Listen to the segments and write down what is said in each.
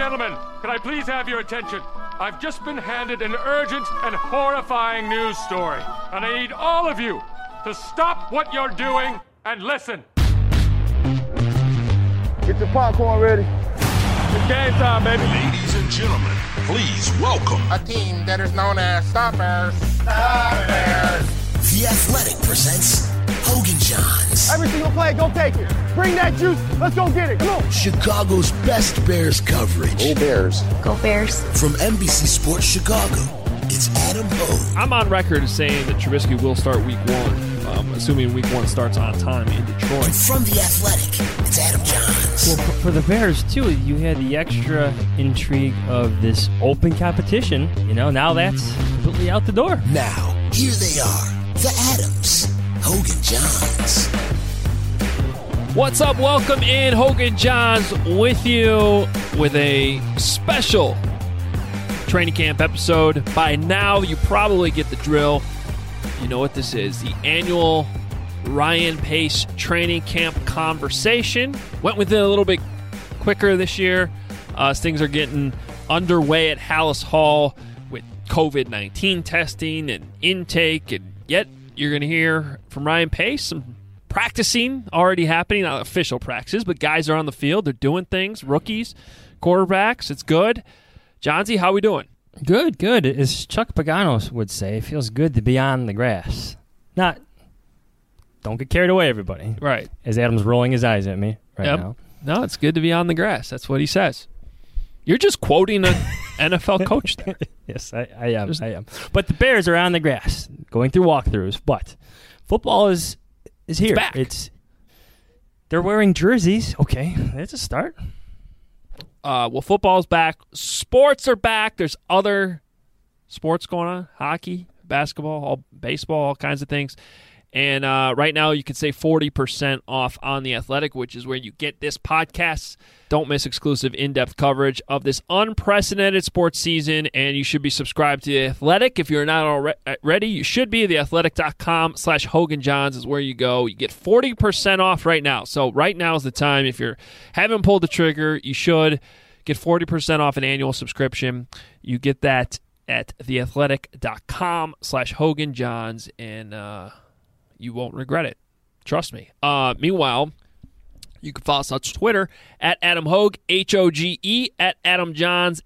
gentlemen, can I please have your attention? I've just been handed an urgent and horrifying news story, and I need all of you to stop what you're doing and listen. Get your popcorn ready. It's game time, baby. Ladies and gentlemen, please welcome A team that is known as Stop Bears. Stop Bears. The Athletic presents Hogan Johns, Every single play, go take it. Bring that juice. Let's go get it. Come on. Chicago's best Bears coverage. Go Bears. Go Bears. From NBC Sports Chicago, it's Adam Hogue. I'm on record as saying that Trubisky will start week one, assuming week one starts on time in Detroit. And from The Athletic, it's Adam Johns. Well, for the Bears, too, you had the extra intrigue of this open competition. Now that's completely out the door. Now, here they are, the Adams, Hogan Johns. What's up? Welcome in. Hogan Johns with you with a special training camp episode. By now, you probably get the drill. You know what this is. The annual Ryan Pace training camp conversation. Went with it a little bit quicker this year as things are getting underway at Halas Hall with COVID-19 testing and intake. And yet, you're going to hear from Ryan Pace some practicing already happening. Not official practices, but guys are on the field. They're doing things. Rookies, quarterbacks. It's good. Johnsy, how we doing? Good. As Chuck Pagano would say, it feels good to be on the grass. Don't get carried away, everybody. Right. As Adam's rolling his eyes at me now. No, it's good to be on the grass. That's what he says. You're just quoting an NFL coach there. Yes, I am. But the Bears are on the grass, going through walkthroughs. But football is here. It's back. They're wearing jerseys. Okay, that's a start. Well, football's back. Sports are back. There's other sports going on. Hockey, basketball, baseball, all kinds of things. And right now you can save 40% off on The Athletic, which is where you get this podcast. Don't miss exclusive in-depth coverage of this unprecedented sports season, and you should be subscribed to The Athletic. If you're not already, you should be. TheAthletic.com/Hogan Johns is where you go. You get 40% off right now. So right now is the time. If you haven't pulled the trigger, you should get 40% off an annual subscription. You get that at TheAthletic.com/Hogan Johns, and you won't regret it. Trust me. Meanwhile, you can follow us on Twitter at Adam Hogue, Hoge, at Adam Johns,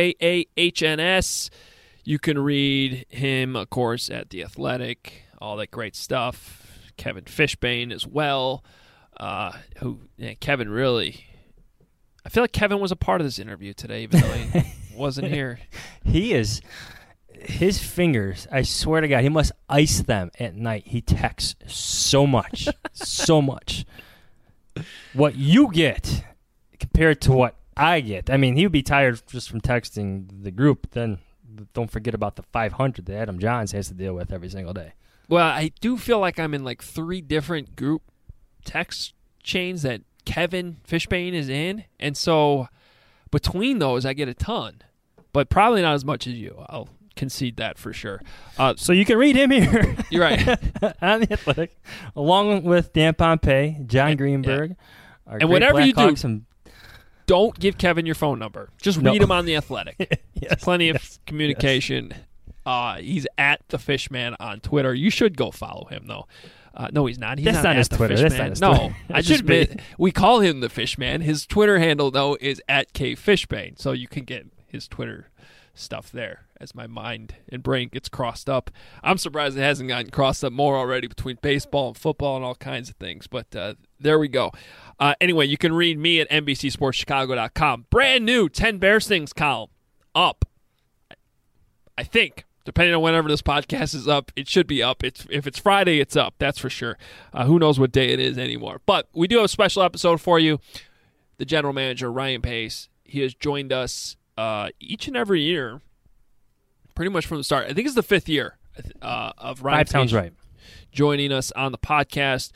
Jahns. You can read him, of course, at The Athletic, all that great stuff. Kevin Fishbain as well. Kevin really... I feel like Kevin was a part of this interview today, even though he wasn't here. He is... His fingers, I swear to God, he must ice them at night. He texts so much, so much. What you get compared to what I get. I mean, he would be tired just from texting the group. Then don't forget about the 500 that Adam Johns has to deal with every single day. Well, I do feel like I'm in like 3 different group text chains that Kevin Fishbain is in. And so between those, I get a ton. But probably not as much as you. I'll concede that for sure. So you can read him here. You're right. On The Athletic, along with Dan Pompei, John Greenberg. Yeah. And whatever you do, don't give Kevin your phone number. Just read him on The Athletic. Yes, plenty of communication. Yes. He's at The Fishman on Twitter. You should go follow him, though. No, he's not. He's That's not his Twitter. Fishman. That's not his no, Twitter. I just we call him The Fishman. His Twitter handle, though, is at KFishbane. So you can get his Twitter stuff there as my mind and brain gets crossed up. I'm surprised it hasn't gotten crossed up more already between baseball and football and all kinds of things, but there we go. Anyway, you can read me at NBCSportsChicago.com. Brand new 10 Bears Things column up. I think, depending on whenever this podcast is up, it should be up. If it's Friday, it's up. That's for sure. Who knows what day it is anymore. But we do have a special episode for you. The general manager, Ryan Pace, he has joined us each and every year, pretty much from the start. I think it's the 5th year of Ryan Pace. 5 sounds right. Joining us on the podcast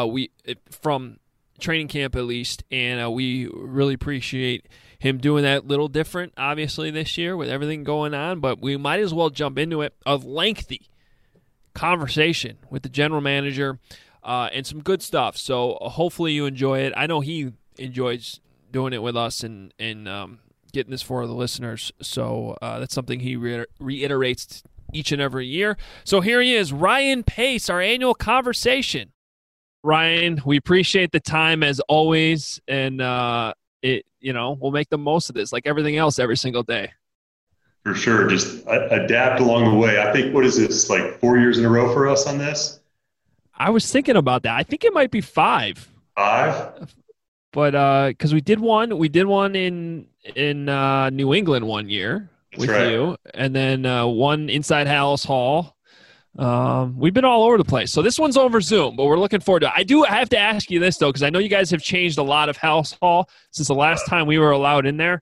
from training camp at least, and we really appreciate him doing that. A little different, obviously, this year with everything going on, but we might as well jump into it. A lengthy conversation with the general manager and some good stuff. So hopefully you enjoy it. I know he enjoys doing it with us and getting this for the listeners. So that's something he reiterates each and every year. So here he is, Ryan Pace, our annual conversation. Ryan, we appreciate the time as always, and we'll make the most of this like everything else every single day. For sure. Just adapt along the way. I think, what is this, like 4 years in a row for us on this? I was thinking about that. I think it might be 5. 5? But because we did one in New England one year with you, and then one inside Hallis Hall. We've been all over the place. So this one's over Zoom, but we're looking forward to it. I have to ask you this, though, because I know you guys have changed a lot of Hallis Hall since the last time we were allowed in there.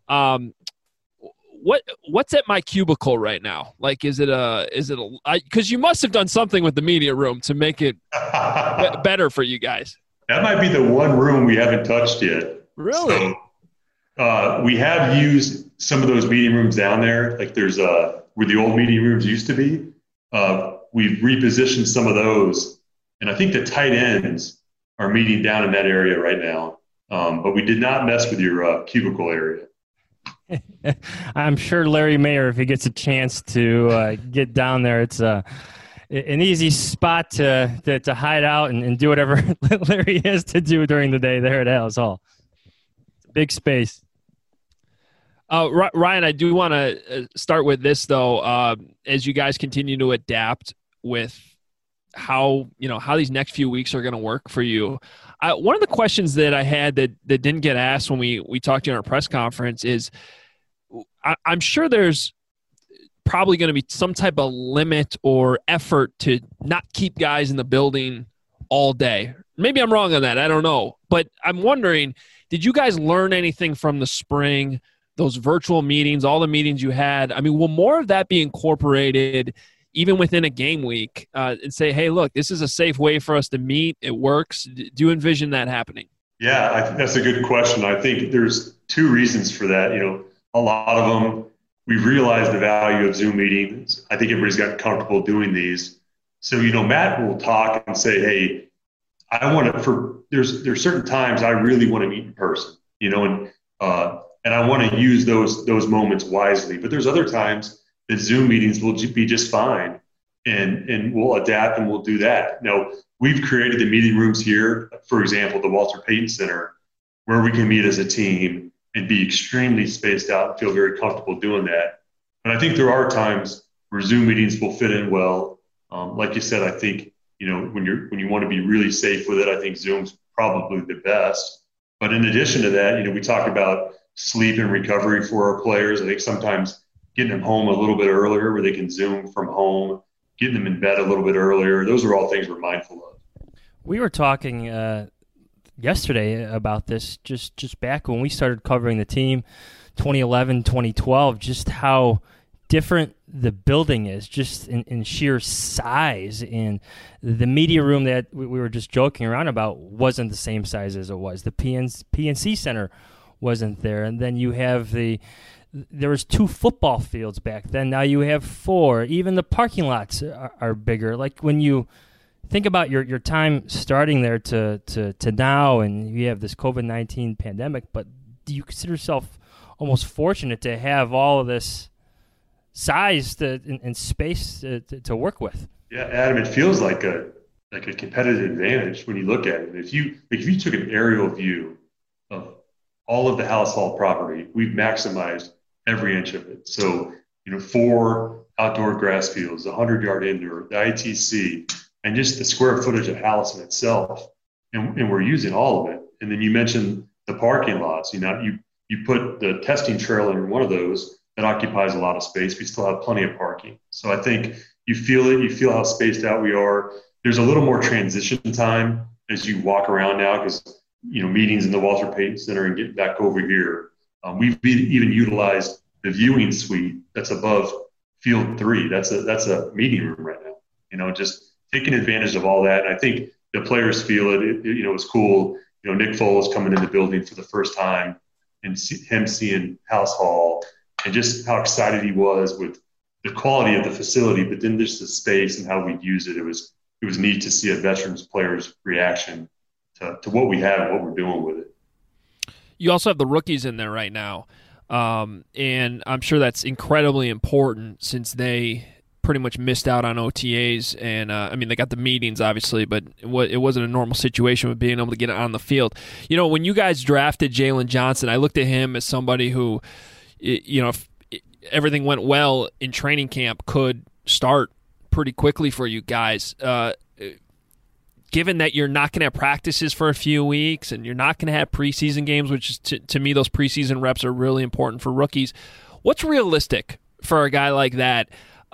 What's at my cubicle right now? Like, is it because you must have done something with the media room to make it better for you guys. That might be the one room we haven't touched yet. Really? So, we have used some of those meeting rooms down there. Like there's where the old meeting rooms used to be. We've repositioned some of those, and I think the tight ends are meeting down in that area right now. But we did not mess with your cubicle area. I'm sure Larry Mayer, if he gets a chance to get down there, it's an easy spot to hide out and do whatever Larry has to do during the day there at Hallis Hall. It's a big space. Ryan, I do want to start with this, though. As you guys continue to adapt with how these next few weeks are going to work for you, one of the questions that I had that didn't get asked when we talked to you in our press conference is, I'm sure there's probably going to be some type of limit or effort to not keep guys in the building all day. Maybe I'm wrong on that. I don't know. But I'm wondering, did you guys learn anything from the spring, those virtual meetings, all the meetings you had? I mean, will more of that be incorporated even within a game week and say, hey, look, this is a safe way for us to meet. It works. Do you envision that happening? Yeah, I think that's a good question. I think there's 2 reasons for that. A lot of them, we've realized the value of Zoom meetings. I think everybody's gotten comfortable doing these. So, Matt will talk and say, hey, there's certain times I really want to meet in person, and I want to use those moments wisely. But there's other times that Zoom meetings will be just fine, and we'll adapt and we'll do that. Now, we've created the meeting rooms here, for example, the Walter Payton Center, where we can meet as a team and be extremely spaced out and feel very comfortable doing that. But I think there are times where Zoom meetings will fit in well. Like you said, I think, when you want to be really safe with it, I think Zoom's probably the best. But in addition to that, we talk about sleep and recovery for our players. I think sometimes getting them home a little bit earlier where they can Zoom from home, getting them in bed a little bit earlier. Those are all things we're mindful of. We were talking yesterday about this just back when we started covering the team, 2011, 2012, just how different the building is just in sheer size. And the media room that we were just joking around about wasn't the same size as it was. The PNC Center wasn't there. And then you have there was 2 football fields back then. Now you have 4. Even the parking lots are bigger. Like when you think about your time starting there to now, and you have this COVID-19 pandemic, but do you consider yourself almost fortunate to have all of this size and space to work with? Yeah, Adam, it feels like a competitive advantage when you look at it. If you took an aerial view of all of the Hallis Hall property, we've maximized every inch of it. So, 4 outdoor grass fields, 100-yard indoor, the ITC, and just the square footage of Hallis in itself. And we're using all of it. And then you mentioned the parking lots. You put the testing trailer in one of those that occupies a lot of space. We still have plenty of parking. So I think you feel it. You feel how spaced out we are. There's a little more transition time as you walk around now because, meetings in the Walter Payton Center and getting back over here. We've even utilized the viewing suite that's above Field 3. That's a meeting room right now. Just taking advantage of all that. And I think the players feel it. It's cool. Nick Foles coming in the building for the first time and him seeing Hallis Hall and just how excited he was with the quality of the facility, but then just the space and how we'd use it. It was neat to see a veterans player's reaction to what we have and what we're doing with it. You also have the rookies in there right now. And I'm sure that's incredibly important since they pretty much missed out on OTAs. And, they got the meetings, obviously, but it wasn't a normal situation with being able to get on the field. When you guys drafted Jalen Johnson, I looked at him as somebody who, if everything went well in training camp, could start pretty quickly for you guys. Given that you're not going to have practices for a few weeks and you're not going to have preseason games, which is to me, those preseason reps are really important for rookies. What's realistic for a guy like that?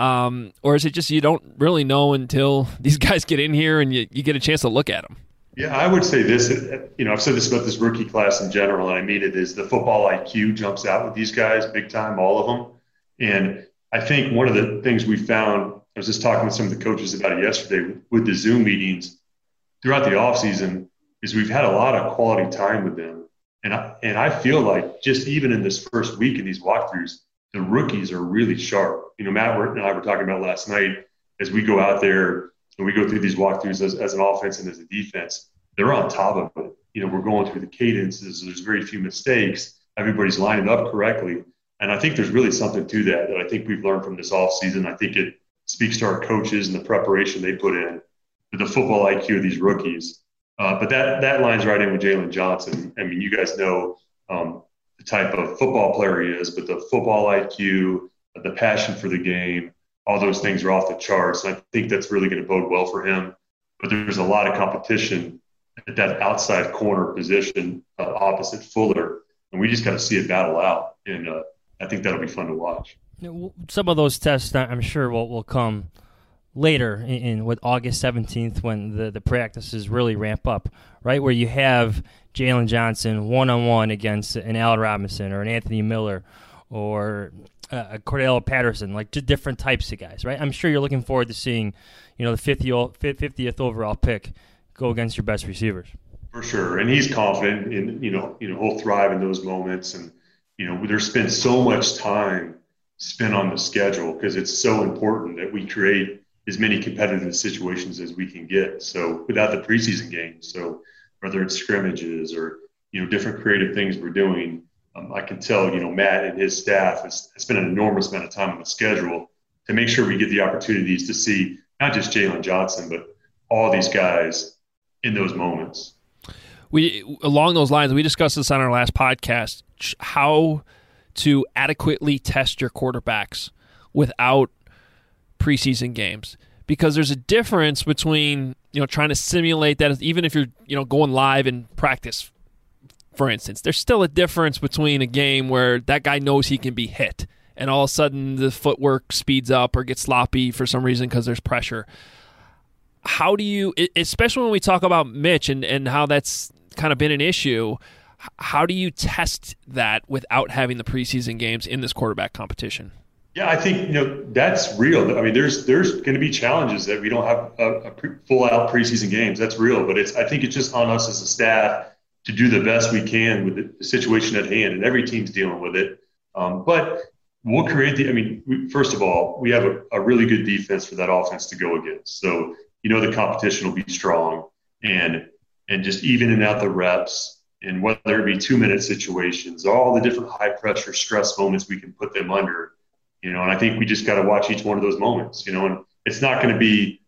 Or is it just you don't really know until these guys get in here and you get a chance to look at them? Yeah, I would say this. I've said this about this rookie class in general, and I mean it, is the football IQ jumps out with these guys big time, all of them. And I think one of the things we found, I was just talking with some of the coaches about it yesterday with the Zoom meetings throughout the offseason, is we've had a lot of quality time with them. And I feel like just even in this first week in these walkthroughs, the rookies are really sharp. Matt and I were talking about last night, as we go out there and we go through these walkthroughs as an offense and as a defense, they're on top of it. We're going through the cadences. There's very few mistakes. Everybody's lining up correctly. And I think there's really something to that I think we've learned from this offseason. I think it speaks to our coaches and the preparation they put in with the football IQ of these rookies. But that lines right in with Jalen Johnson. I mean, you guys know the type of football player he is, but the football IQ, the passion for the game, all those things are off the charts. And I think that's really going to bode well for him. But there's a lot of competition at that outside corner position opposite Fuller. And we just got to see it battle out. And I think that'll be fun to watch. Some of those tests, I'm sure, will come later in with August 17th when the practices really ramp up, right? Where you have Jalen Johnson one-on-one against an Allen Robinson or an Anthony Miller or a Cordell Patterson, like just different types of guys, right? I'm sure you're looking forward to seeing, the 50th overall pick go against your best receivers. For sure. And he's confident in, he'll thrive in those moments. And, there's been so much time spent on the schedule because it's so important that we create as many competitive situations as we can get. So without the preseason games, so whether it's scrimmages or, different creative things we're doing, I can tell, Matt and his staff has spent an enormous amount of time on the schedule to make sure we get the opportunities to see not just Jalen Johnson, but all these guys in those moments. Along those lines, we discussed this on our last podcast, how to adequately test your quarterbacks without preseason games, because there's a difference between trying to simulate that, even if you're going live in practice, for instance. There's still a difference between a game where that guy knows he can be hit and all of a sudden the footwork speeds up or gets sloppy for some reason because there's pressure. How do you, especially when we talk about Mitch and how that's kind of been an issue, how do you test that without having the preseason games in this quarterback competition? Yeah, I think that's real. I mean, there's going to be challenges that we don't have a full-out preseason games. That's real, but I think it's just on us as a staff to do the best we can with the situation at hand, and every team's dealing with it. But we'll create first of all, we have a really good defense for that offense to go against. So the competition will be strong, and just evening out the reps, and whether it be 2-minute situations, all the different high-pressure stress moments we can put them under. And I think we just got to watch each one of those moments, and it's not going to be,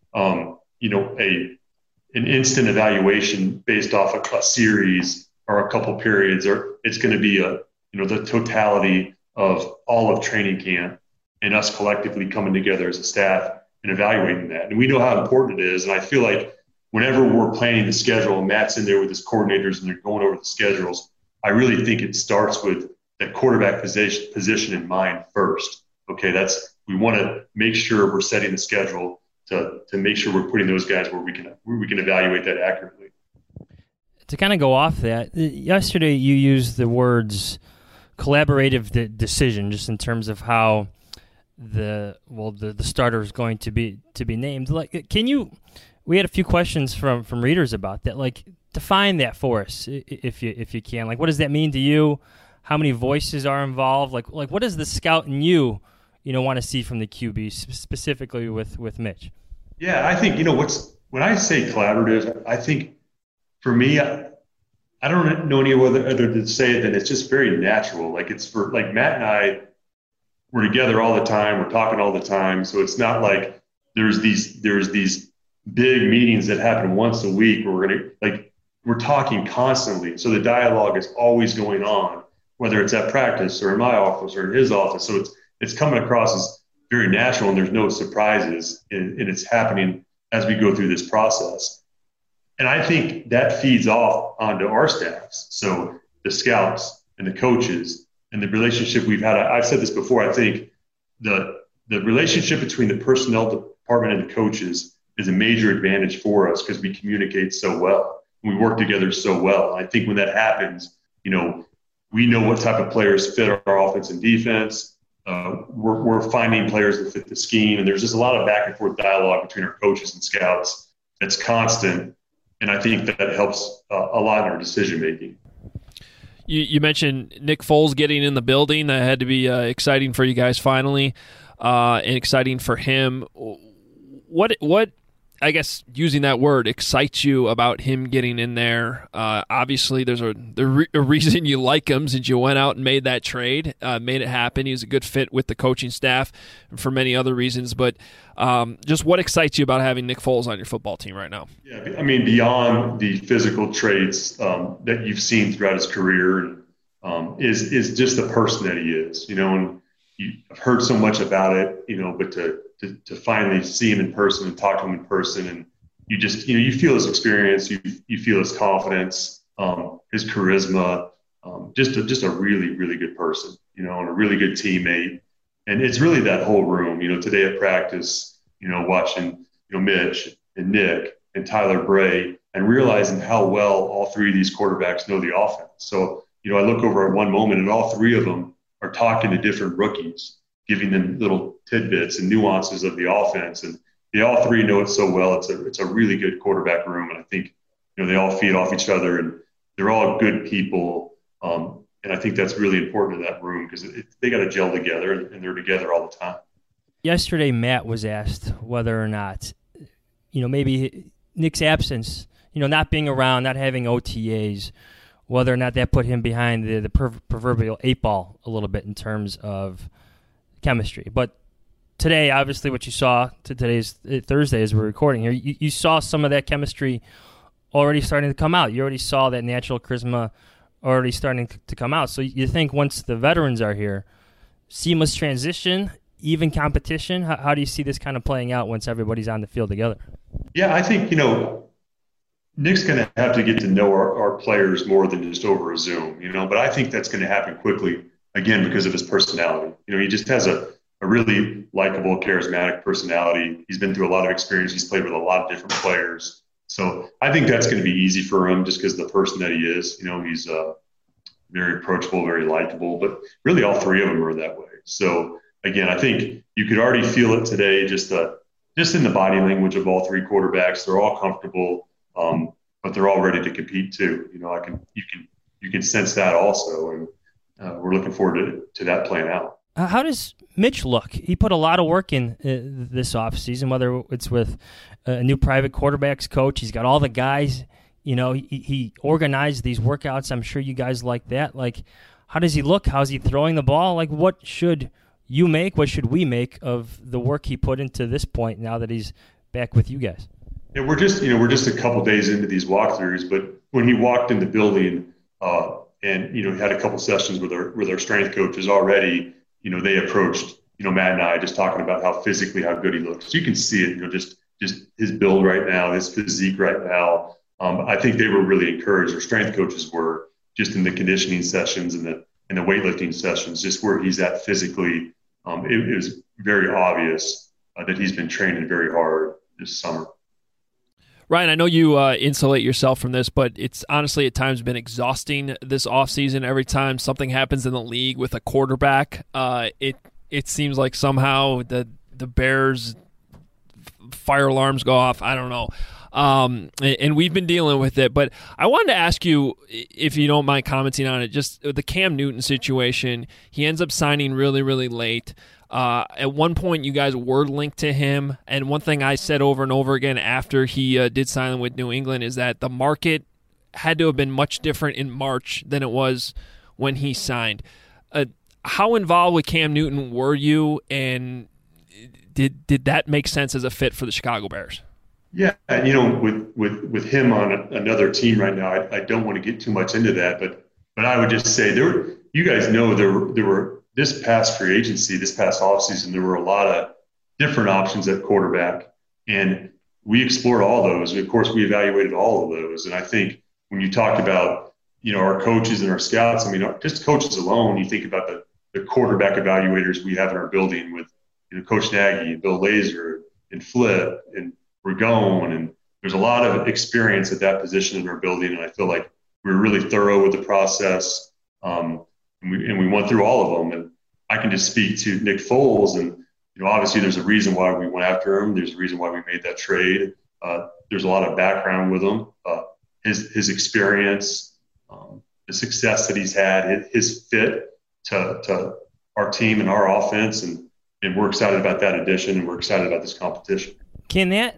an instant evaluation based off a series or a couple periods, or it's going to be the totality of all of training camp and us collectively coming together as a staff and evaluating that. And we know how important it is. And I feel like whenever we're planning the schedule and Matt's in there with his coordinators and they're going over the schedules, I really think it starts with that quarterback position in mind first. Okay, we want to make sure we're setting the schedule to make sure we're putting those guys where we can evaluate that accurately. To kind of go off that, yesterday you used the words collaborative decision, just in terms of how the starter is going to be named. Like, we had a few questions from readers about that. Like, define that for us if you can. Like, what does that mean to you? How many voices are involved? Like what does the scout in you want to see from the QB, specifically with Mitch? Yeah, I think, when I say collaborative, I think for me, I don't know any other to say it than it's just very natural. Like it's for like Matt and I, we're together all the time. We're talking all the time. So it's not like there's these big meetings that happen once a week where we're talking constantly. So the dialogue is always going on, whether it's at practice or in my office or in his office. So it's coming across as very natural, and there's no surprises, and it's happening as we go through this process. And I think that feeds off onto our staffs. So the scouts and the coaches and the relationship we've had. I've said this before. I think the relationship between the personnel department and the coaches is a major advantage for us because we communicate so well. We work together so well. I think when that happens, we know what type of players fit our offense and defense. We're finding players that fit the scheme, and there's just a lot of back and forth dialogue between our coaches and scouts that's constant, and I think that helps a lot in our decision making. You mentioned Nick Foles getting in the building. That had to be exciting for you guys finally, and exciting for him. What I guess using that word excites you about him getting in there? Obviously, there's a reason you like him since you went out and made that trade, made it happen. He was a good fit with the coaching staff and for many other reasons. But just what excites you about having Nick Foles on your football team right now? Yeah, I mean, beyond the physical traits that you've seen throughout his career, is just the person that he is. And I've heard so much about it, but to finally see him in person and talk to him in person, and you just you feel his experience, you feel his confidence, his charisma, just a really, really good person, and a really good teammate. And it's really that whole room. Today at practice, watching Mitch and Nick and Tyler Bray and realizing how well all three of these quarterbacks know the offense. So I look over at one moment and all three of them are talking to different rookies, giving them little tidbits and nuances of the offense, and they all three know it so well. It's a really good quarterback room, and I think they all feed off each other, and they're all good people, and I think that's really important in that room because they got to gel together, and they're together all the time. Yesterday, Matt was asked whether or not, maybe Nick's absence, not being around, not having OTAs, whether or not that put him behind the proverbial 8-ball a little bit in terms of chemistry. But today, obviously, what you saw, today's Thursday as we're recording here, you saw some of that chemistry already starting to come out. You already saw that natural charisma already starting to come out. So you think once the veterans are here, seamless transition, even competition, how do you see this kind of playing out once everybody's on the field together? Yeah, I think, Nick's going to have to get to know our players more than just over a Zoom, but I think that's going to happen quickly, again, because of his personality. He just has a really likable, charismatic personality. He's been through a lot of experience. He's played with a lot of different players. So I think that's going to be easy for him just because of the person that he is. He's very approachable, very likable, but really all three of them are that way. So, again, I think you could already feel it today just in the body language of all three quarterbacks. They're all comfortable. But they're all ready to compete too. You can sense that also, and we're looking forward to that playing out. How does Mitch look? He put a lot of work in this offseason, whether it's with a new private quarterbacks coach. He's got all the guys. He organized these workouts. I'm sure you guys like that. Like, how does he look? How's he throwing the ball? Like, what should you make? What should we make of the work he put into this point now that he's back with you guys? Yeah, we're just a couple days into these walkthroughs, but when he walked in the building and had a couple sessions with our strength coaches already, they approached Matt and I just talking about how good he looks. So you can see it, just his build right now, his physique right now. I think they were really encouraged. Our strength coaches were just in the conditioning sessions and the weightlifting sessions, just where he's at physically. It was very obvious that he's been training very hard this summer. Ryan, I know you insulate yourself from this, but it's honestly at times been exhausting this offseason. Every time something happens in the league with a quarterback, it seems like somehow the Bears fire alarms go off. I don't know. And we've been dealing with it. But I wanted to ask you, if you don't mind commenting on it, just the Cam Newton situation. He ends up signing really, really late. At one point, you guys were linked to him, and one thing I said over and over again after he did sign with New England is that the market had to have been much different in March than it was when he signed. How involved with Cam Newton were you, and did that make sense as a fit for the Chicago Bears? Yeah, and with him on another team right now, I don't want to get too much into that, but I would just say you guys know there were this past free agency, this past offseason, there were a lot of different options at quarterback, and we explored all those. Of course, we evaluated all of those, and I think when you talked about our coaches and our scouts, I mean, just coaches alone, you think about the quarterback evaluators we have in our building with Coach Nagy and Bill Lazor and Flip and Ragone, and there's a lot of experience at that position in our building, and I feel like we were really thorough with the process, and we went through all of them. And I can just speak to Nick Foles, and obviously there's a reason why we went after him. There's a reason why we made that trade. There's a lot of background with him, his experience, the success that he's had, his fit to our team and our offense, and we're excited about that addition, and we're excited about this competition. Can that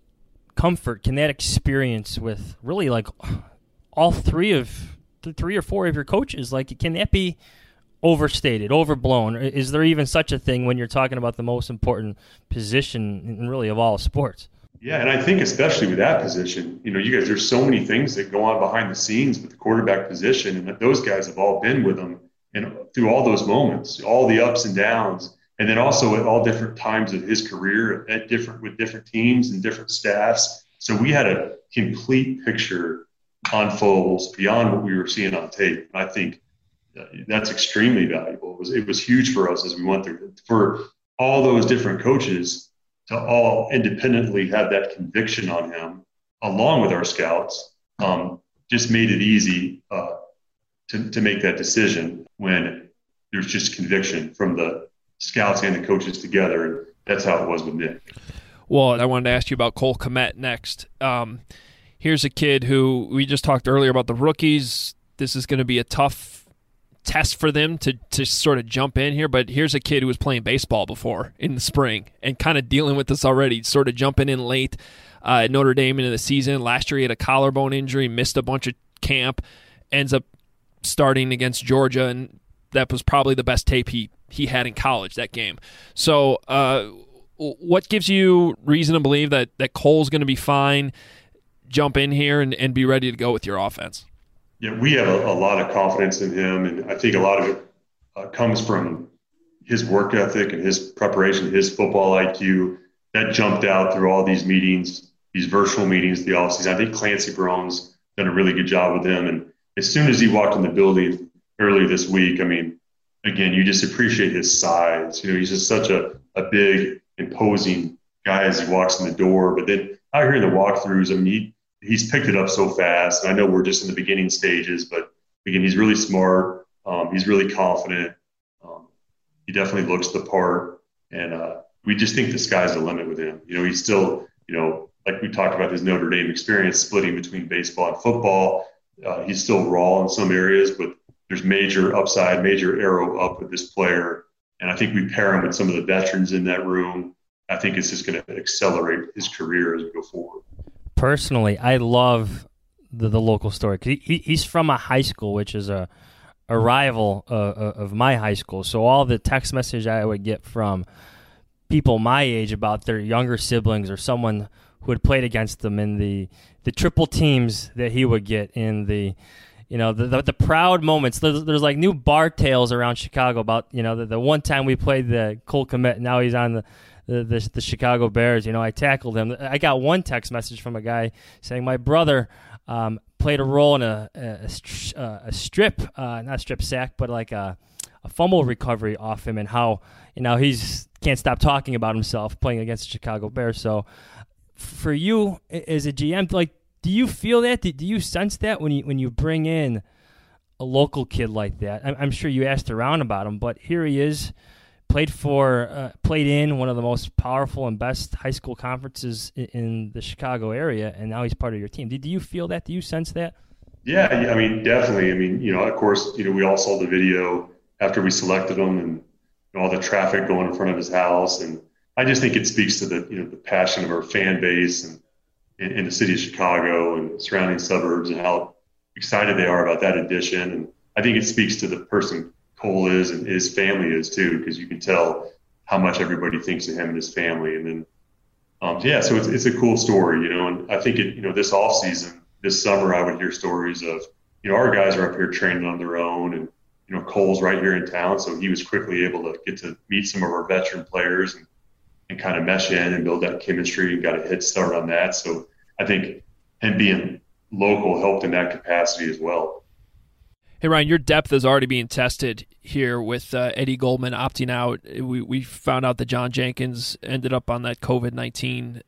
experience with really like all three or four of your coaches, like, can that be overstated, overblown? Is there even such a thing when you're talking about the most important position in really of all sports? Yeah, and I think especially with that position, you guys, there's so many things that go on behind the scenes with the quarterback position, and that those guys have all been with them and through all those moments, all the ups and downs. And then also at all different times of his career with different teams and different staffs. So we had a complete picture on Foles beyond what we were seeing on tape. And I think that's extremely valuable. It was huge for us as we went through it. For all those different coaches to all independently have that conviction on him, along with our scouts, just made it easy to make that decision when there's just conviction from the scouts and the coaches together, and that's how it was with Nick. Well, I wanted to ask you about Cole Kmet next. Here's a kid who we just talked earlier about the rookies. This is going to be a tough test for them to sort of jump in here, but here's a kid who was playing baseball before in the spring and kind of dealing with this already, sort of jumping in late at Notre Dame into the season. Last year he had a collarbone injury, missed a bunch of camp, ends up starting against Georgia, and that was probably the best tape he had in college, that game. So what gives you reason to believe that Cole's going to be fine, jump in here, and be ready to go with your offense? Yeah, we have a lot of confidence in him, and I think a lot of it comes from his work ethic and his preparation, his football IQ. That jumped out through all these meetings, these virtual meetings, the offseason. I think Clancy Brown's done a really good job with him, and as soon as he walked in the building earlier this week, I mean, again, you just appreciate his size. He's just such a big, imposing guy as he walks in the door. But then out here in the walkthroughs, I mean, he's picked it up so fast. And I know we're just in the beginning stages, but again, he's really smart. He's really confident. He definitely looks the part. And we just think the sky's the limit with him. He's still, like we talked about his Notre Dame experience, splitting between baseball and football. He's still raw in some areas, but there's major upside, major arrow up with this player. And I think we pair him with some of the veterans in that room. I think it's just going to accelerate his career as we go forward. Personally, I love the local story. He's from a high school, which is a rival of my high school. So all the text message I would get from people my age about their younger siblings or someone who had played against them in the triple teams that he would get in the proud moments. There's like new bar tales around Chicago about, the one time we played the Cole Kmet, now he's on the Chicago Bears. I tackled him. I got one text message from a guy saying my brother played a role in a strip, not a strip sack, but like a fumble recovery off him, and how, he's can't stop talking about himself playing against the Chicago Bears. So for you as a GM, like, do you feel that? Do you sense that when you bring in a local kid like that? I'm sure you asked around about him, but here he is, played in one of the most powerful and best high school conferences in the Chicago area, and now he's part of your team. Do you feel that? Do you sense that? Yeah, I mean, definitely. I mean, of course, we all saw the video after we selected him, and all the traffic going in front of his house, and I just think it speaks to the passion of our fan base and in the city of Chicago and surrounding suburbs, and how excited they are about that addition. And I think it speaks to the person Cole is and his family is too, because you can tell how much everybody thinks of him and his family. And then, so it's a cool story, and I think this off season, this summer, I would hear stories of, our guys are up here training on their own, and, Cole's right here in town. So he was quickly able to get to meet some of our veteran players and kind of mesh in and build that chemistry and got a head start on that. So I think him being local helped in that capacity as well. Hey, Ryan, your depth is already being tested here with Eddie Goldman opting out. We found out that John Jenkins ended up on that COVID-19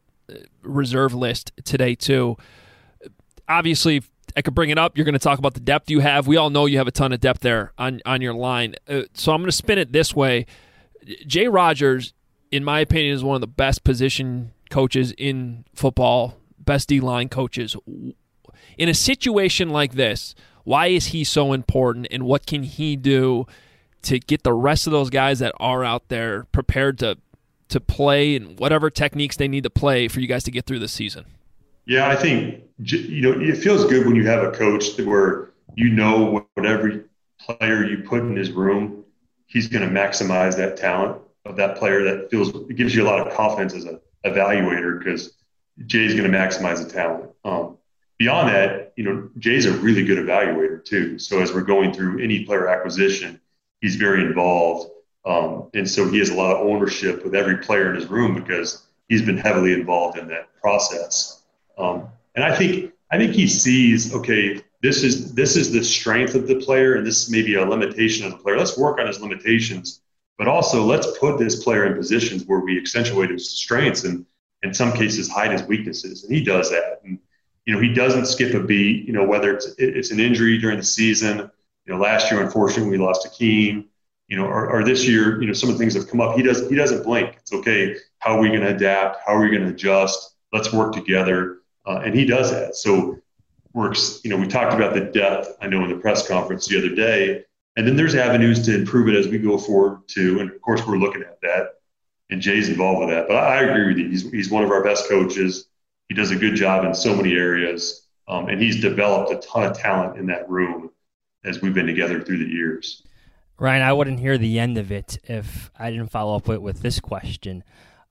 reserve list today, too. Obviously, I could bring it up. You're going to talk about the depth you have. We all know you have a ton of depth there on your line. So I'm going to spin it this way. Jay Rogers, in my opinion, is one of the best position coaches in football, best D-line coaches. In a situation like this, why is he so important, and what can he do to get the rest of those guys that are out there prepared to play and whatever techniques they need to play for you guys to get through the season? Yeah, I think, it feels good when you have a coach where what every player you put in his room, he's going to maximize that talent of that player. It gives you a lot of confidence as an evaluator because Jay's going to maximize the talent. Beyond that, Jay's a really good evaluator too. So as we're going through any player acquisition, he's very involved. And so he has a lot of ownership with every player in his room because he's been heavily involved in that process. And I think he sees, okay, this is the strength of the player, and this may be a limitation of the player. Let's work on his limitations, but also let's put this player in positions where we accentuate his strengths and in some cases hide his weaknesses. And he does that. And, he doesn't skip a beat, whether it's an injury during the season. Last year, unfortunately, we lost Akeem, or this year, some of the things have come up. He doesn't blink. It's okay. How are we going to adapt? How are we going to adjust? Let's work together. And he does that. So works, we talked about the depth, I know, in the press conference the other day, and then there's avenues to improve it as we go forward too. And of course, we're looking at that, and Jay's involved with that. But I agree with you. He's one of our best coaches. He does a good job in so many areas, and he's developed a ton of talent in that room as we've been together through the years. Ryan, I wouldn't hear the end of it if I didn't follow up with this question.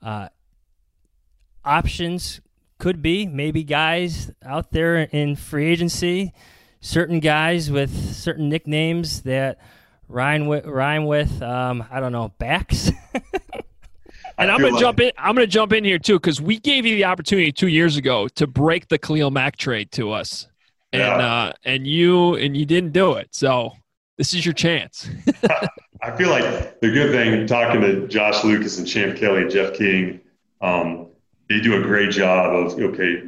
Options could be maybe guys out there in free agency, certain guys with certain nicknames that rhyme with I don't know, backs. And I'm gonna jump in here too, because we gave you the opportunity 2 years ago to break the Khalil Mack trade to us, and you didn't do it. So this is your chance. I feel like the good thing, talking to Josh Lucas and Champ Kelly and Jeff King, they do a great job of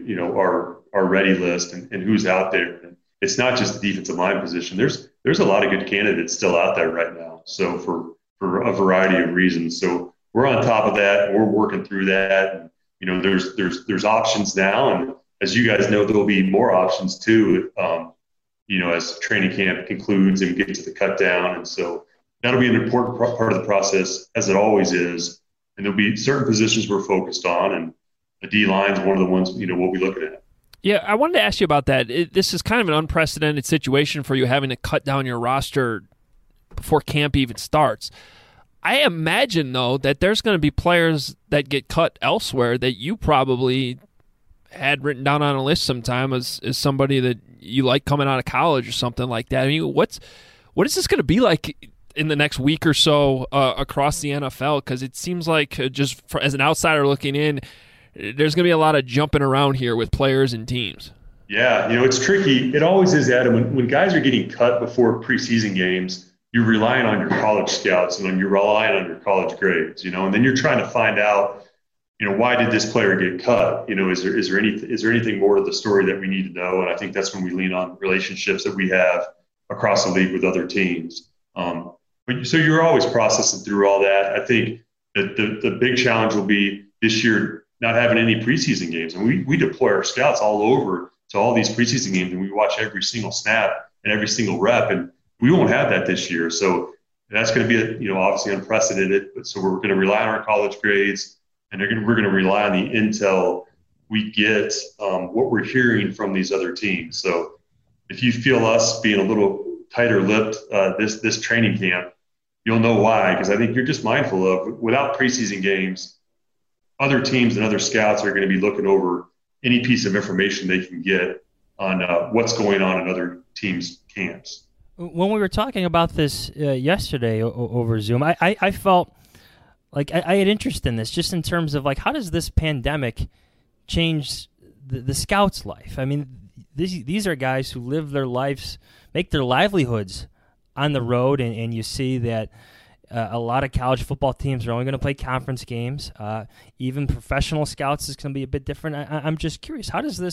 our ready list and who's out there. And it's not just the defensive line position. There's a lot of good candidates still out there right now. So for a variety of reasons. So we're on top of that, and we're working through that. And, there's options now, and as you guys know, there'll be more options too. As training camp concludes and we get to the cut down, and so that'll be an important part of the process, as it always is. And there'll be certain positions we're focused on, and the D line is one of the ones we'll be looking at. Yeah, I wanted to ask you about that. This is kind of an unprecedented situation for you, having to cut down your roster before camp even starts. I imagine, though, that there's going to be players that get cut elsewhere that you probably had written down on a list sometime as somebody that you like coming out of college or something like that. I mean, what is this going to be like in the next week or so across the NFL? Because it seems like, as an outsider looking in, there's going to be a lot of jumping around here with players and teams. Yeah, it's tricky. It always is, Adam. When guys are getting cut before preseason games, you're relying on your college scouts and you're relying on your college grades, and then you're trying to find out, why did this player get cut? Is there anything more to the story that we need to know? And I think that's when we lean on relationships that we have across the league with other teams. So you're always processing through all that. I think that the big challenge will be this year not having any preseason games. And we deploy our scouts all over to all these preseason games, and we watch every single snap and every single rep. And we won't have that this year. So that's going to be, obviously unprecedented. But so we're going to rely on our college grades, and we're going to rely on the intel we get, what we're hearing from these other teams. So if you feel us being a little tighter lipped this training camp, you'll know why. Because I think you're just mindful of, without preseason games, other teams and other scouts are going to be looking over any piece of information they can get on what's going on in other teams' camps. When we were talking about this yesterday over Zoom, I felt like I had interest in this, just in terms of, like, how does this pandemic change the scouts' life? I mean, these are guys who live their lives, make their livelihoods on the road, and you see that a lot of college football teams are only going to play conference games. Even professional scouts is going to be a bit different. I'm just curious,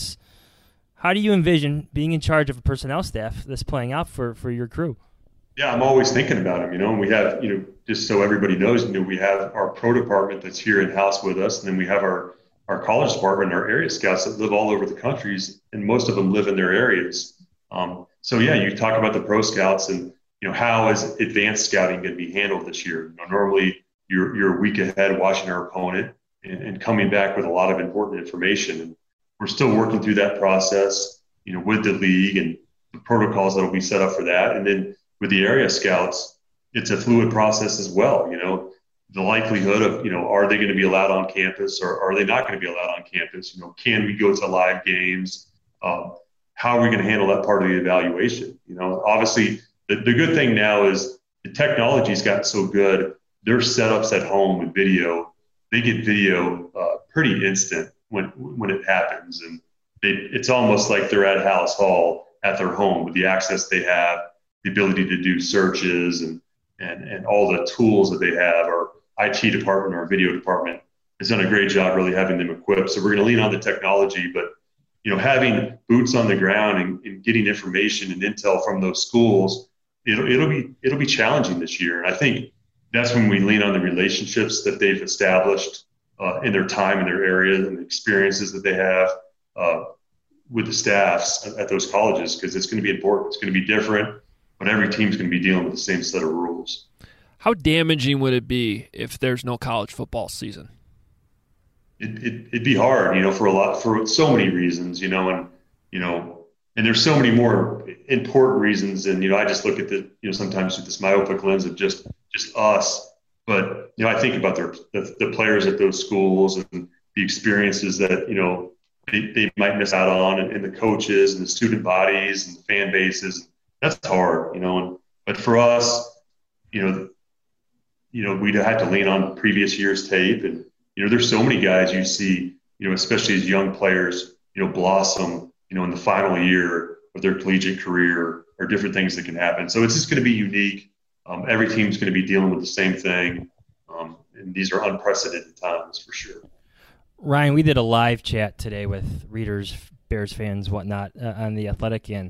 how do you envision being in charge of a personnel staff this playing out for your crew? Yeah, I'm always thinking about them, and we have, just so everybody knows, we have our pro department that's here in-house with us, and then we have our college department, our area scouts that live all over the countries, and most of them live in their areas. So yeah, you talk about the pro scouts, and how is advanced scouting going to be handled this year? Normally you're a week ahead watching our opponent and coming back with a lot of important information, and we're still working through that process, with the league and the protocols that will be set up for that. And then with the area scouts, it's a fluid process as well. The likelihood of, are they going to be allowed on campus, or are they not going to be allowed on campus? Can we go to live games? How are we going to handle that part of the evaluation? Obviously the good thing now is the technology's gotten so good. Their setups at home with video, they get video pretty instant when it happens. And it's almost like they're at Hallis Hall at their home with the access they have, the ability to do searches and all the tools that they have. Our IT department, our video department has done a great job really having them equipped. So we're going to lean on the technology, but having boots on the ground and getting information and intel from those schools, it'll be challenging this year. And I think that's when we lean on the relationships that they've established in their time in their area and the experiences that they have with the staffs at those colleges, because it's going to be important. It's going to be different, but every team's going to be dealing with the same set of rules. How damaging would it be if there's no college football season? It'd be hard, for so many reasons, and there's so many more important reasons. And, I just look at sometimes with this myopic lens of just us, but, I think about the players at those schools and the experiences that, they might miss out on, and the coaches and the student bodies and the fan bases. That's hard, but for us, we'd have to lean on previous year's tape. And, there's so many guys you see, especially as young players, blossom, in the final year of their collegiate career, or different things that can happen. So it's just going to be unique. Every team's going to be dealing with the same thing. And these are unprecedented times for sure. Ryan, we did a live chat today with readers, Bears fans, whatnot, on The Athletic, and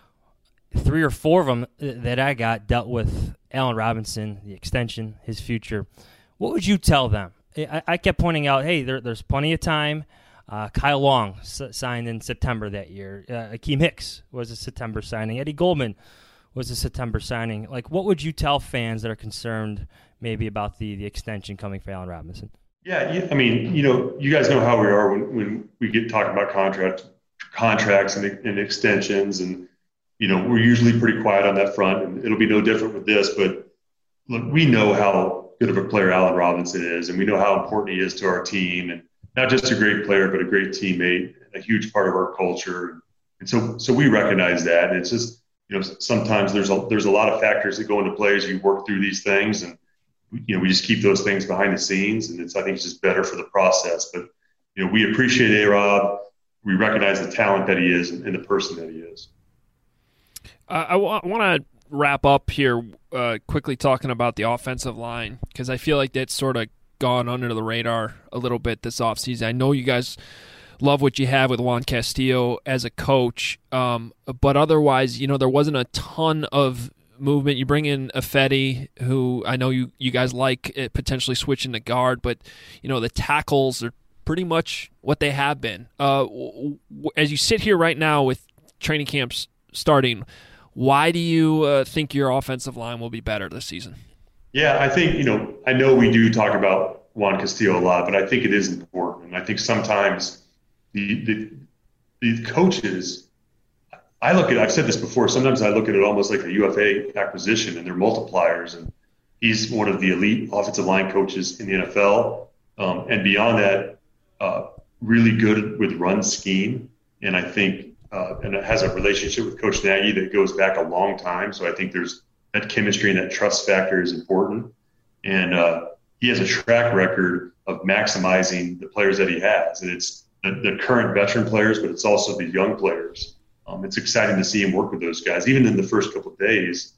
3 or 4 of them that I got dealt with Allen Robinson, the extension, his future. What would you tell them? I kept pointing out, hey, there's plenty of time. Kyle Long signed in September that year. Akeem Hicks was a September signing. Eddie Goldman was a September signing. Like, what would you tell fans that are concerned maybe about the extension coming for Allen Robinson? Yeah, I mean, you guys know how we are when we get talking about contracts and extensions, and we're usually pretty quiet on that front, and it'll be no different with this. But look, we know how good of a player Allen Robinson is, and we know how important he is to our team, and not just a great player, but a great teammate, a huge part of our culture. And so we recognize that. And it's just, sometimes there's a lot of factors that go into play as you work through these things, and we just keep those things behind the scenes, and I think it's just better for the process. But we appreciate A-Rob. We recognize the talent that he is and the person that he is. I want to wrap up here quickly talking about the offensive line, because I feel like that's sort of gone under the radar a little bit this offseason. I know you guys love what you have with Juan Castillo as a coach, but otherwise, there wasn't a ton of movement. You bring in Ifedi, who I know you guys like potentially switching to guard, but the tackles are pretty much what they have been. As you sit here right now with training camps starting, why do you think your offensive line will be better this season? Yeah, I think, I know we do talk about Juan Castillo a lot, but I think it is important. And I think sometimes the coaches, I've said this before, sometimes I look at it almost like a UFA acquisition, and they're multipliers. And he's one of the elite offensive line coaches in the NFL. And beyond that, really good with run scheme. And I think, and it has a relationship with Coach Nagy that goes back a long time. So I think there's that chemistry and that trust factor is important. And he has a track record of maximizing the players that he has. And it's the current veteran players, but it's also the young players. It's exciting to see him work with those guys. Even in the first couple of days,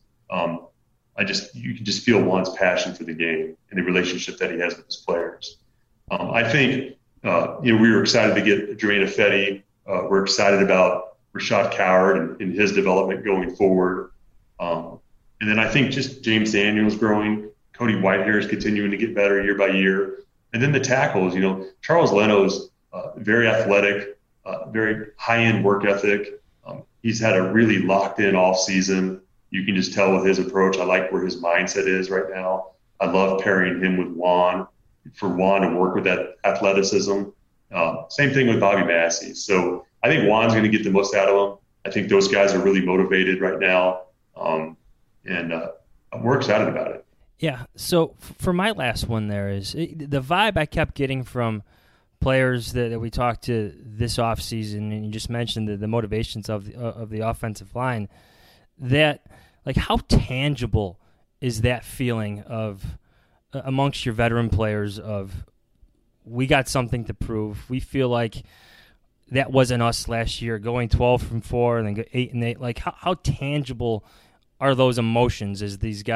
you can just feel Juan's passion for the game and the relationship that he has with his players. I think, we were excited to get Germain Ifedi. We're excited about Rashad Coward and his development going forward. And then I think just James Daniels growing, Cody Whitehair is continuing to get better year by year. And then the tackles, Charles Leno's very athletic, very high-end work ethic. He's had a really locked-in off-season. You can just tell with his approach. I like where his mindset is right now. I love pairing him with Juan, for Juan to work with that athleticism. Same thing with Bobby Massey. So I think Juan's going to get the most out of him. I think those guys are really motivated right now, and we're excited about it. Yeah, so for my last one there is the vibe I kept getting from players that we talked to this offseason, and you just mentioned the motivations of the offensive line, that like how tangible is that feeling of amongst your veteran players of we got something to prove. We feel like that wasn't us last year, going 12-4 and then go 8-8. Like how tangible are those emotions as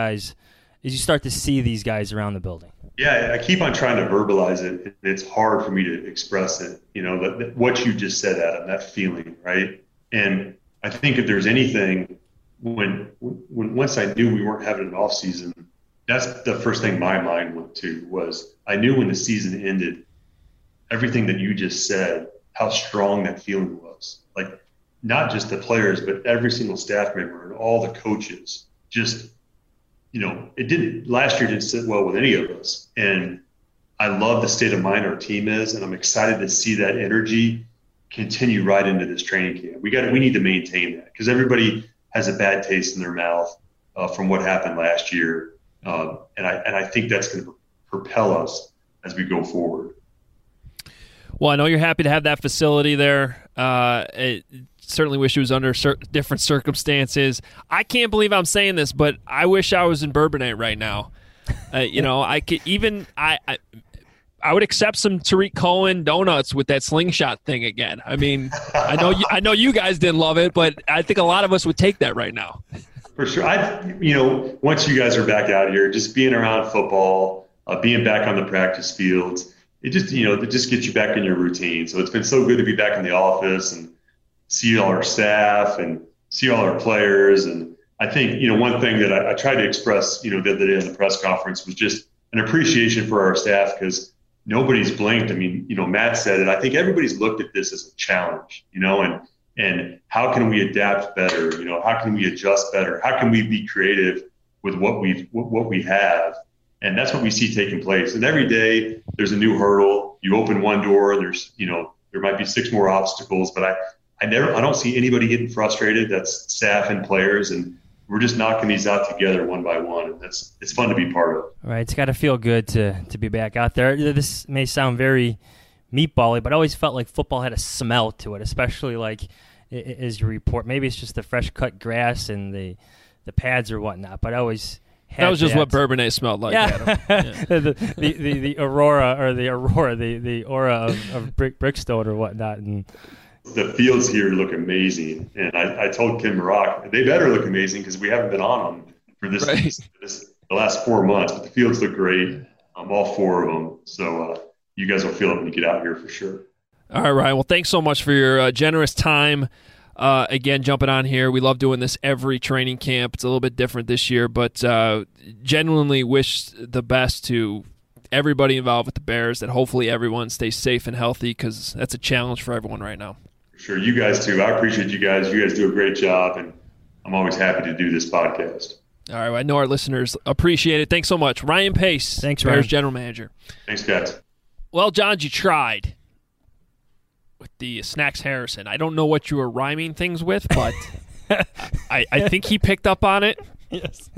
you start to see these guys around the building? Yeah, I keep on trying to verbalize it, and it's hard for me to express it. What you just said, Adam, that feeling, right? And I think if there's anything, when once I knew we weren't having an off season, that's the first thing my mind went to was I knew when the season ended, everything that you just said, how strong that feeling was. Like not just the players, but every single staff member and all the coaches just. Last year didn't sit well with any of us. And I love the state of mind our team is, and I'm excited to see that energy continue right into this training camp. We need to maintain that because everybody has a bad taste in their mouth from what happened last year. And I think that's going to propel us as we go forward. Well, I know you're happy to have that facility there. Certainly wish it was under different circumstances. I can't believe I'm saying this, but I wish I was in Bourbonnais right now. I could I would accept some Tariq Cohen donuts with that slingshot thing again. I mean, I know you guys didn't love it, but I think a lot of us would take that right now. For sure. Once you guys are back out here, just being around football, being back on the practice fields, it just gets you back in your routine. So it's been so good to be back in the office and see all our staff and see all our players. And I think, one thing that I tried to express, the other day in the press conference was just an appreciation for our staff because nobody's blinked. I mean, Matt said it. I think everybody's looked at this as a challenge, and how can we adapt better? How can we adjust better? How can we be creative with what we have? And that's what we see taking place. And every day there's a new hurdle. You open one door and there's, there might be 6 more obstacles, but I don't see anybody getting frustrated. That's staff and players, and we're just knocking these out together one by one, and it's fun to be part of. Right, it's got to feel good to be back out there. This may sound very meatball-y, but I always felt like football had a smell to it, especially like as you report. Maybe it's just the fresh cut grass and the pads or whatnot, but I always had that was just what Bourbonnais smelled like. Yeah, yeah. the aura of Brickstone or whatnot, and. The fields here look amazing, and I told Ken Maroc they better look amazing because we haven't been on them for the last 4 months. But the fields look great, all 4 of them. So you guys will feel it when you get out here for sure. All right, Ryan. Well, thanks so much for your generous time. Again, jumping on here. We love doing this every training camp. It's a little bit different this year, but genuinely wish the best to everybody involved with the Bears, that hopefully everyone stays safe and healthy because that's a challenge for everyone right now. Sure. You guys too. I appreciate you guys. You guys do a great job, and I'm always happy to do this podcast. All right. I know our listeners appreciate it. Thanks so much. Ryan Pace, thanks, Bears Ryan. General Manager. Thanks, guys. Well, John, you tried. with the Snacks Harrison. I don't know what you were rhyming things with, but I think he picked up on it. Yes.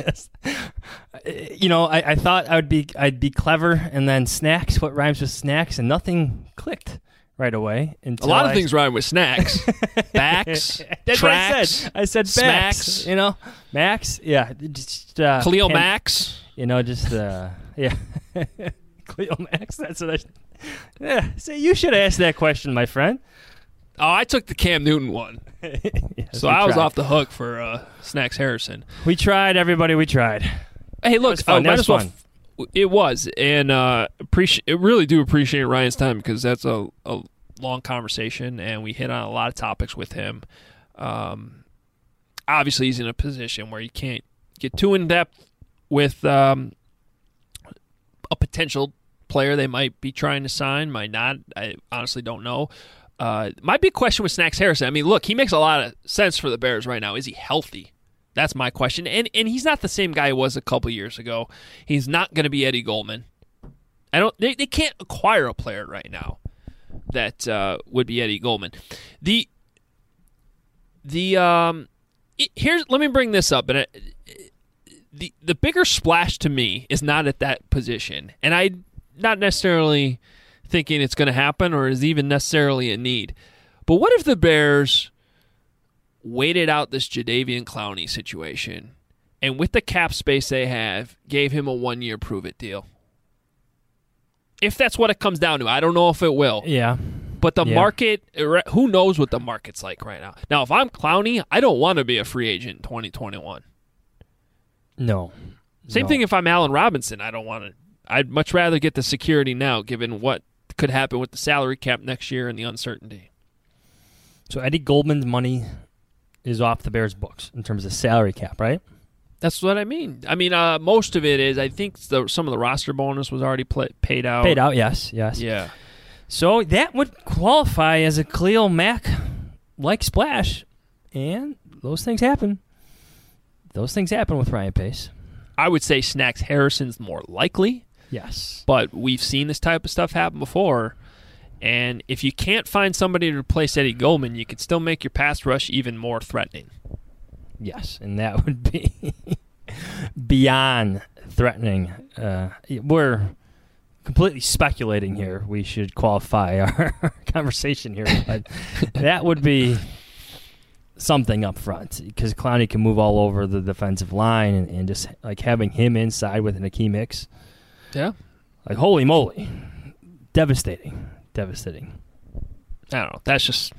I thought I'd be clever, and then snacks. What rhymes with snacks? And nothing clicked right away. A lot of things rhyme with snacks. Backs, That's tracks, what I said. smacks. Backs. Max. Yeah. Just Cleo Max. Yeah. Cleo Max. That's what I. Yeah. So you should ask that question, my friend. Oh, I took the Cam Newton one. Yes, So I was off the hook for Snacks Harrison. We tried, everybody. We tried. Hey, look, was fun. That was fun. It was, and really do appreciate Ryan's time because that's a long conversation, and we hit on a lot of topics with him. Obviously, he's in a position where you can't get too in depth with a potential player they might be trying to sign, might not. I honestly don't know. My big question with Snacks Harrison, I mean, look, he makes a lot of sense for the Bears right now. Is he healthy? That's my question. And he's not the same guy he was a couple years ago. He's not going to be Eddie Goldman. They can't acquire a player right now that would be Eddie Goldman. Here's, let me bring this up. And the bigger splash to me is not at that position. And I'm not necessarily thinking it's going to happen or is even necessarily a need. But what if the Bears waited out this Jadeveon Clowney situation and with the cap space they have, gave him a 1-year prove-it deal? If that's what it comes down to. I don't know if it will. Yeah. But the market, who knows what the market's like right now. Now, if I'm Clowney, I don't want to be a free agent in 2021. No. Same thing if I'm Allen Robinson. I don't want to. I'd much rather get the security now, given what could happen with the salary cap next year and the uncertainty. So Eddie Goldman's money is off the Bears' books in terms of salary cap, right? That's what I mean. I mean, most of it is, I think some of the roster bonus was already paid out. Paid out, yes. Yeah. So that would qualify as a Khalil Mack-like splash, and those things happen. Those things happen with Ryan Pace. I would say Snacks Harrison's more likely. Yes. But we've seen this type of stuff happen before. And if you can't find somebody to replace Eddie Goldman, you could still make your pass rush even more threatening. Yes, and that would be beyond threatening. We're completely speculating here. We should qualify our conversation here. But that would be something up front because Clowney can move all over the defensive line and just like having him inside with an Akeem Hicks. Yeah. Like, holy moly. Devastating. I don't know. That's just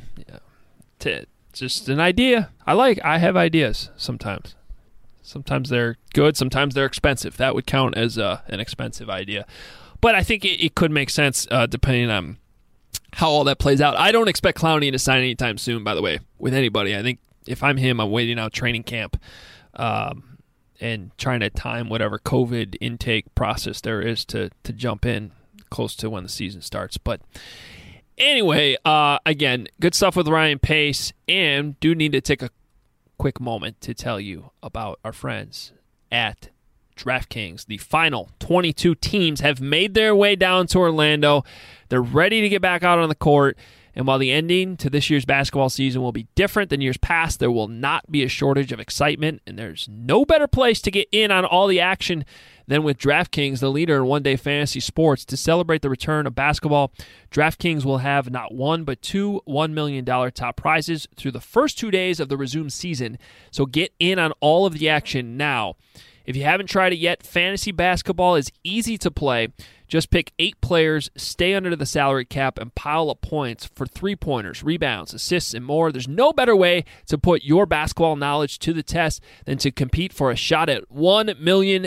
just an idea. I have ideas sometimes. Sometimes they're good. Sometimes they're expensive. That would count as an expensive idea. But I think it could make sense depending on how all that plays out. I don't expect Clowney to sign anytime soon, by the way, with anybody. I think if I'm him, I'm waiting out training camp and trying to time whatever COVID intake process there is to jump in close to when the season starts. But anyway, again, good stuff with Ryan Pace, and do need to take a quick moment to tell you about our friends at DraftKings. The final 22 teams have made their way down to Orlando. They're ready to get back out on the court. And while the ending to this year's basketball season will be different than years past, there will not be a shortage of excitement, and there's no better place to get in on all the action than with DraftKings, the leader in one-day fantasy sports. To celebrate the return of basketball, DraftKings will have not one but two $1 million top prizes through the first 2 days of the resumed season. So get in on all of the action now. If you haven't tried it yet, fantasy basketball is easy to play. Just pick 8 players, stay under the salary cap, and pile up points for three-pointers, rebounds, assists, and more. There's no better way to put your basketball knowledge to the test than to compete for a shot at $1 million.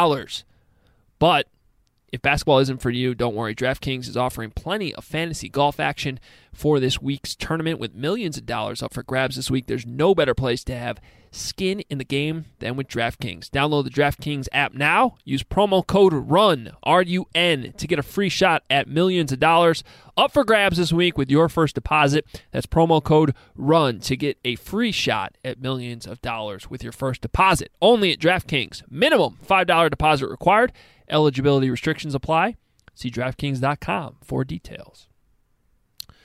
But if basketball isn't for you, don't worry. DraftKings is offering plenty of fantasy golf action for this week's tournament with millions of dollars up for grabs this week. There's no better place to have skin in the game than with DraftKings. Download the DraftKings app now. Use promo code RUN, R-U-N, to get a free shot at millions of dollars up for grabs this week with your first deposit. That's promo code RUN to get a free shot at millions of dollars with your first deposit. Only at DraftKings. Minimum $5 deposit required. Eligibility restrictions apply. See DraftKings.com for details.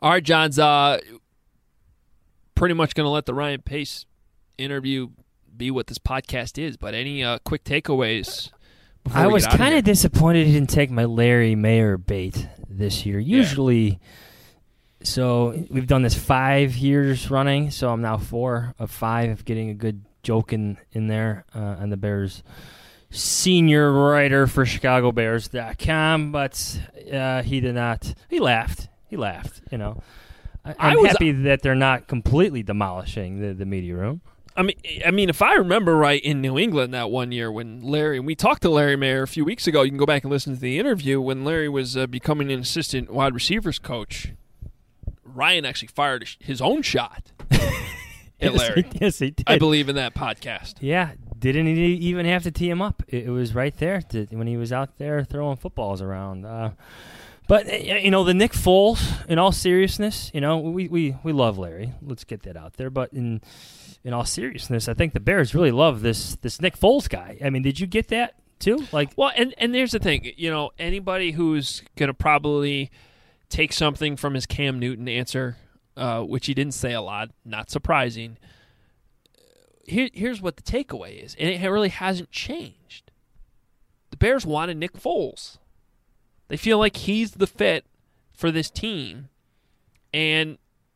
All right, John's pretty much going to let the Ryan Pace interview be what this podcast is, but any quick takeaways before I we was get out of kind here? of disappointed he didn't take my Larry Mayer bait this year. Usually, so we've done this 5 years running, so I'm now 4 of 5 getting a good joke in there on the Bears senior writer for ChicagoBears.com, but he did not. He laughed. You know. I'm happy that they're not completely demolishing the media room. I mean, if I remember right, in New England that one year when we talked to Larry Mayer a few weeks ago. You can go back and listen to the interview when Larry was becoming an assistant wide receivers coach. Ryan actually fired his own shot at Larry. Yes, he did. I believe in that podcast. Yeah, didn't even have to tee him up. It was right there when he was out there throwing footballs around. But, the Nick Foles, in all seriousness, we love Larry. Let's get that out there. But in all seriousness, I think the Bears really love this Nick Foles guy. I mean, did you get that too? Well, and there's the thing. Anybody who's going to probably take something from his Cam Newton answer, which he didn't say a lot, not surprising. Here's what the takeaway is, and it really hasn't changed. The Bears wanted Nick Foles. They feel like he's the fit for this team. And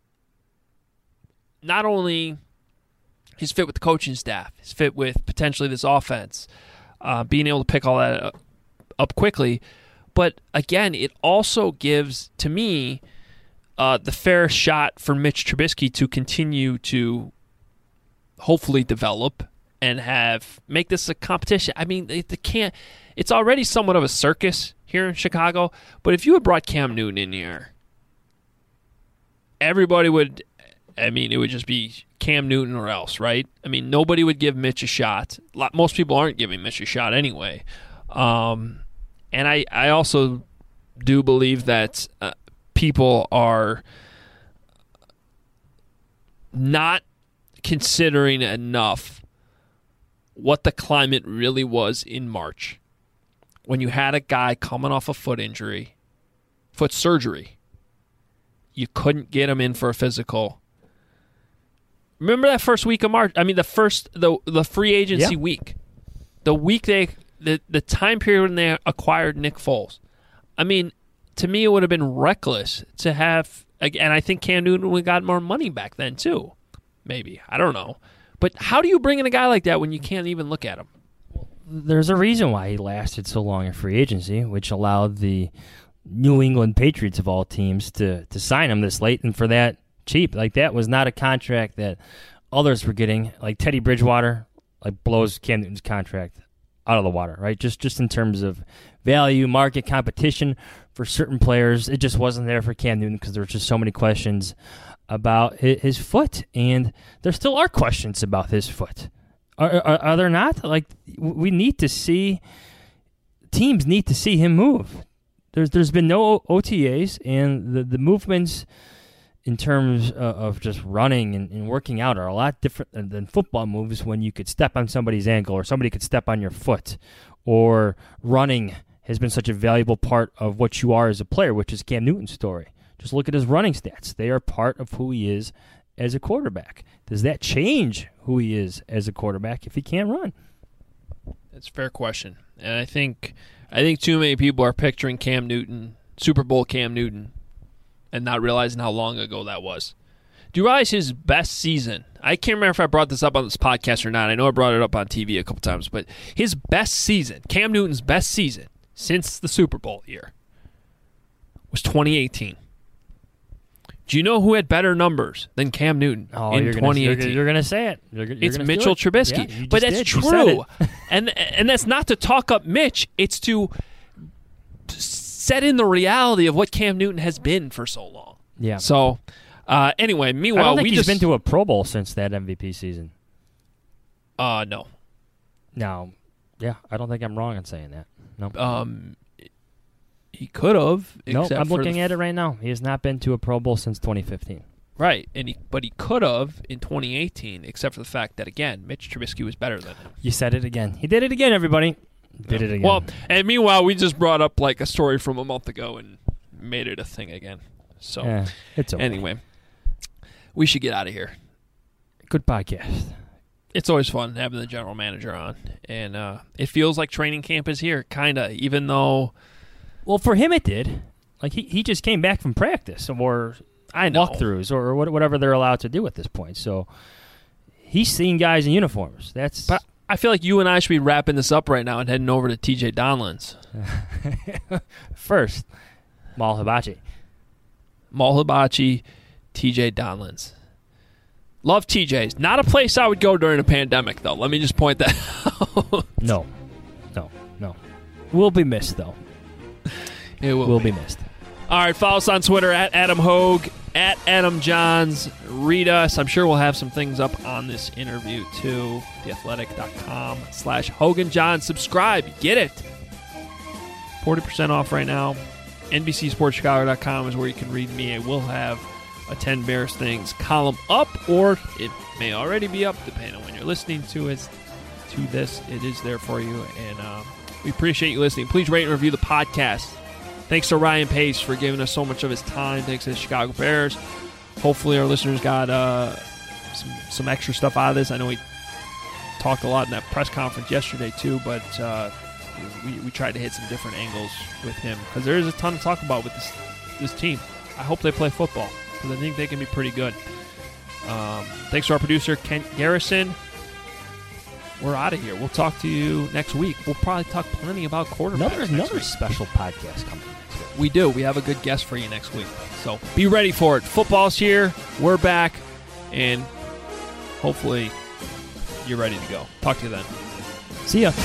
not only his fit with the coaching staff, his fit with potentially this offense, being able to pick all that up quickly, but again, it also gives, to me, the fair shot for Mitch Trubisky to continue to hopefully develop and make this a competition. I mean, they can't. It's already somewhat of a circus here in Chicago, but if you had brought Cam Newton in here, everybody would, it would just be Cam Newton or else, right? I mean, nobody would give Mitch a shot. Most people aren't giving Mitch a shot anyway. And I also do believe that people are not considering enough what the climate really was in March when you had a guy coming off a foot surgery. You couldn't get him in for a physical. Remember that first week of March? I mean, the free agency week. The week the time period when they acquired Nick Foles. I mean, to me, it would have been reckless to have, and I think Cam Newton would have got more money back then too. Maybe. I don't know. But how do you bring in a guy like that when you can't even look at him? There's a reason why he lasted so long in free agency, which allowed the New England Patriots of all teams to sign him this late and for that cheap. Like, that was not a contract that others were getting. Like, Teddy Bridgewater blows Cam Newton's contract out of the water, right? Just in terms of value, market, competition for certain players. It just wasn't there for Cam Newton because there were just so many questions about his foot, and there still are questions about his foot. Are there not? Like, we need to see, teams need to see him move. There's been no OTAs, and the movements in terms of just running and working out are a lot different than football moves when you could step on somebody's ankle or somebody could step on your foot, or running has been such a valuable part of what you are as a player, which is Cam Newton's story. Just look at his running stats. They are part of who he is as a quarterback. Does that change who he is as a quarterback if he can't run? That's a fair question. And I think too many people are picturing Cam Newton, Super Bowl Cam Newton, and not realizing how long ago that was. Do you realize his best season? I can't remember if I brought this up on this podcast or not. I know I brought it up on TV a couple times, but his best season, Cam Newton's best season since the Super Bowl year, was 2018. Do you know who had better numbers than Cam Newton in 2018? You're going to say it. It's Mitchell Trubisky. Yeah, but that's true. and that's not to talk up Mitch. It's to set in the reality of what Cam Newton has been for so long. Yeah. So, anyway, meanwhile, I don't think he's been to a Pro Bowl since that MVP season. No. No. Yeah, I don't think I'm wrong in saying that. No. He could have. No, I'm looking at it right now. He has not been to a Pro Bowl since 2015. Right, but he could have in 2018, except for the fact that, again, Mitch Trubisky was better than him. You said it again. He did it again, everybody. Did it again. Well, and meanwhile, we just brought up a story from a month ago and made it a thing again. So it's okay. Anyway, we should get out of here. Good podcast. It's always fun having the general manager on, and it feels like training camp is here, kind of, even though... Well, for him it did. Like, he just came back from practice or walkthroughs or whatever they're allowed to do at this point. So he's seeing guys in uniforms. But I feel like you and I should be wrapping this up right now and heading over to TJ Donlands. First, Mal Hibachi, TJ Donlands. Love TJ's. Not a place I would go during a pandemic, though. Let me just point that out. No. We'll be missed, though. It will be missed. All right, follow us on Twitter at Adam Hogue, at Adam Johns. Read us. I'm sure we'll have some things up on this interview, too. theathletic.com/Hogan Johns. Subscribe. Get it. 40% off right now. NBCSportsChicago.com is where you can read me. I will have a 10 Bears Things column up, or it may already be up, depending on when you're listening to this. It is there for you, and we appreciate you listening. Please rate and review the podcast. Thanks to Ryan Pace for giving us so much of his time. Thanks to the Chicago Bears. Hopefully our listeners got some extra stuff out of this. I know we talked a lot in that press conference yesterday too, but we tried to hit some different angles with him because there is a ton to talk about with this team. I hope they play football because I think they can be pretty good. Thanks to our producer, Kent Garrison. We're out of here. We'll talk to you next week. We'll probably talk plenty about quarterbacks. Another special podcast coming next week. We do. We have a good guest for you next week. So be ready for it. Football's here. We're back. And hopefully you're ready to go. Talk to you then. See ya.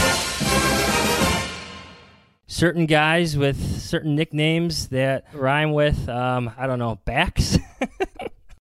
Certain guys with certain nicknames that rhyme with, backs.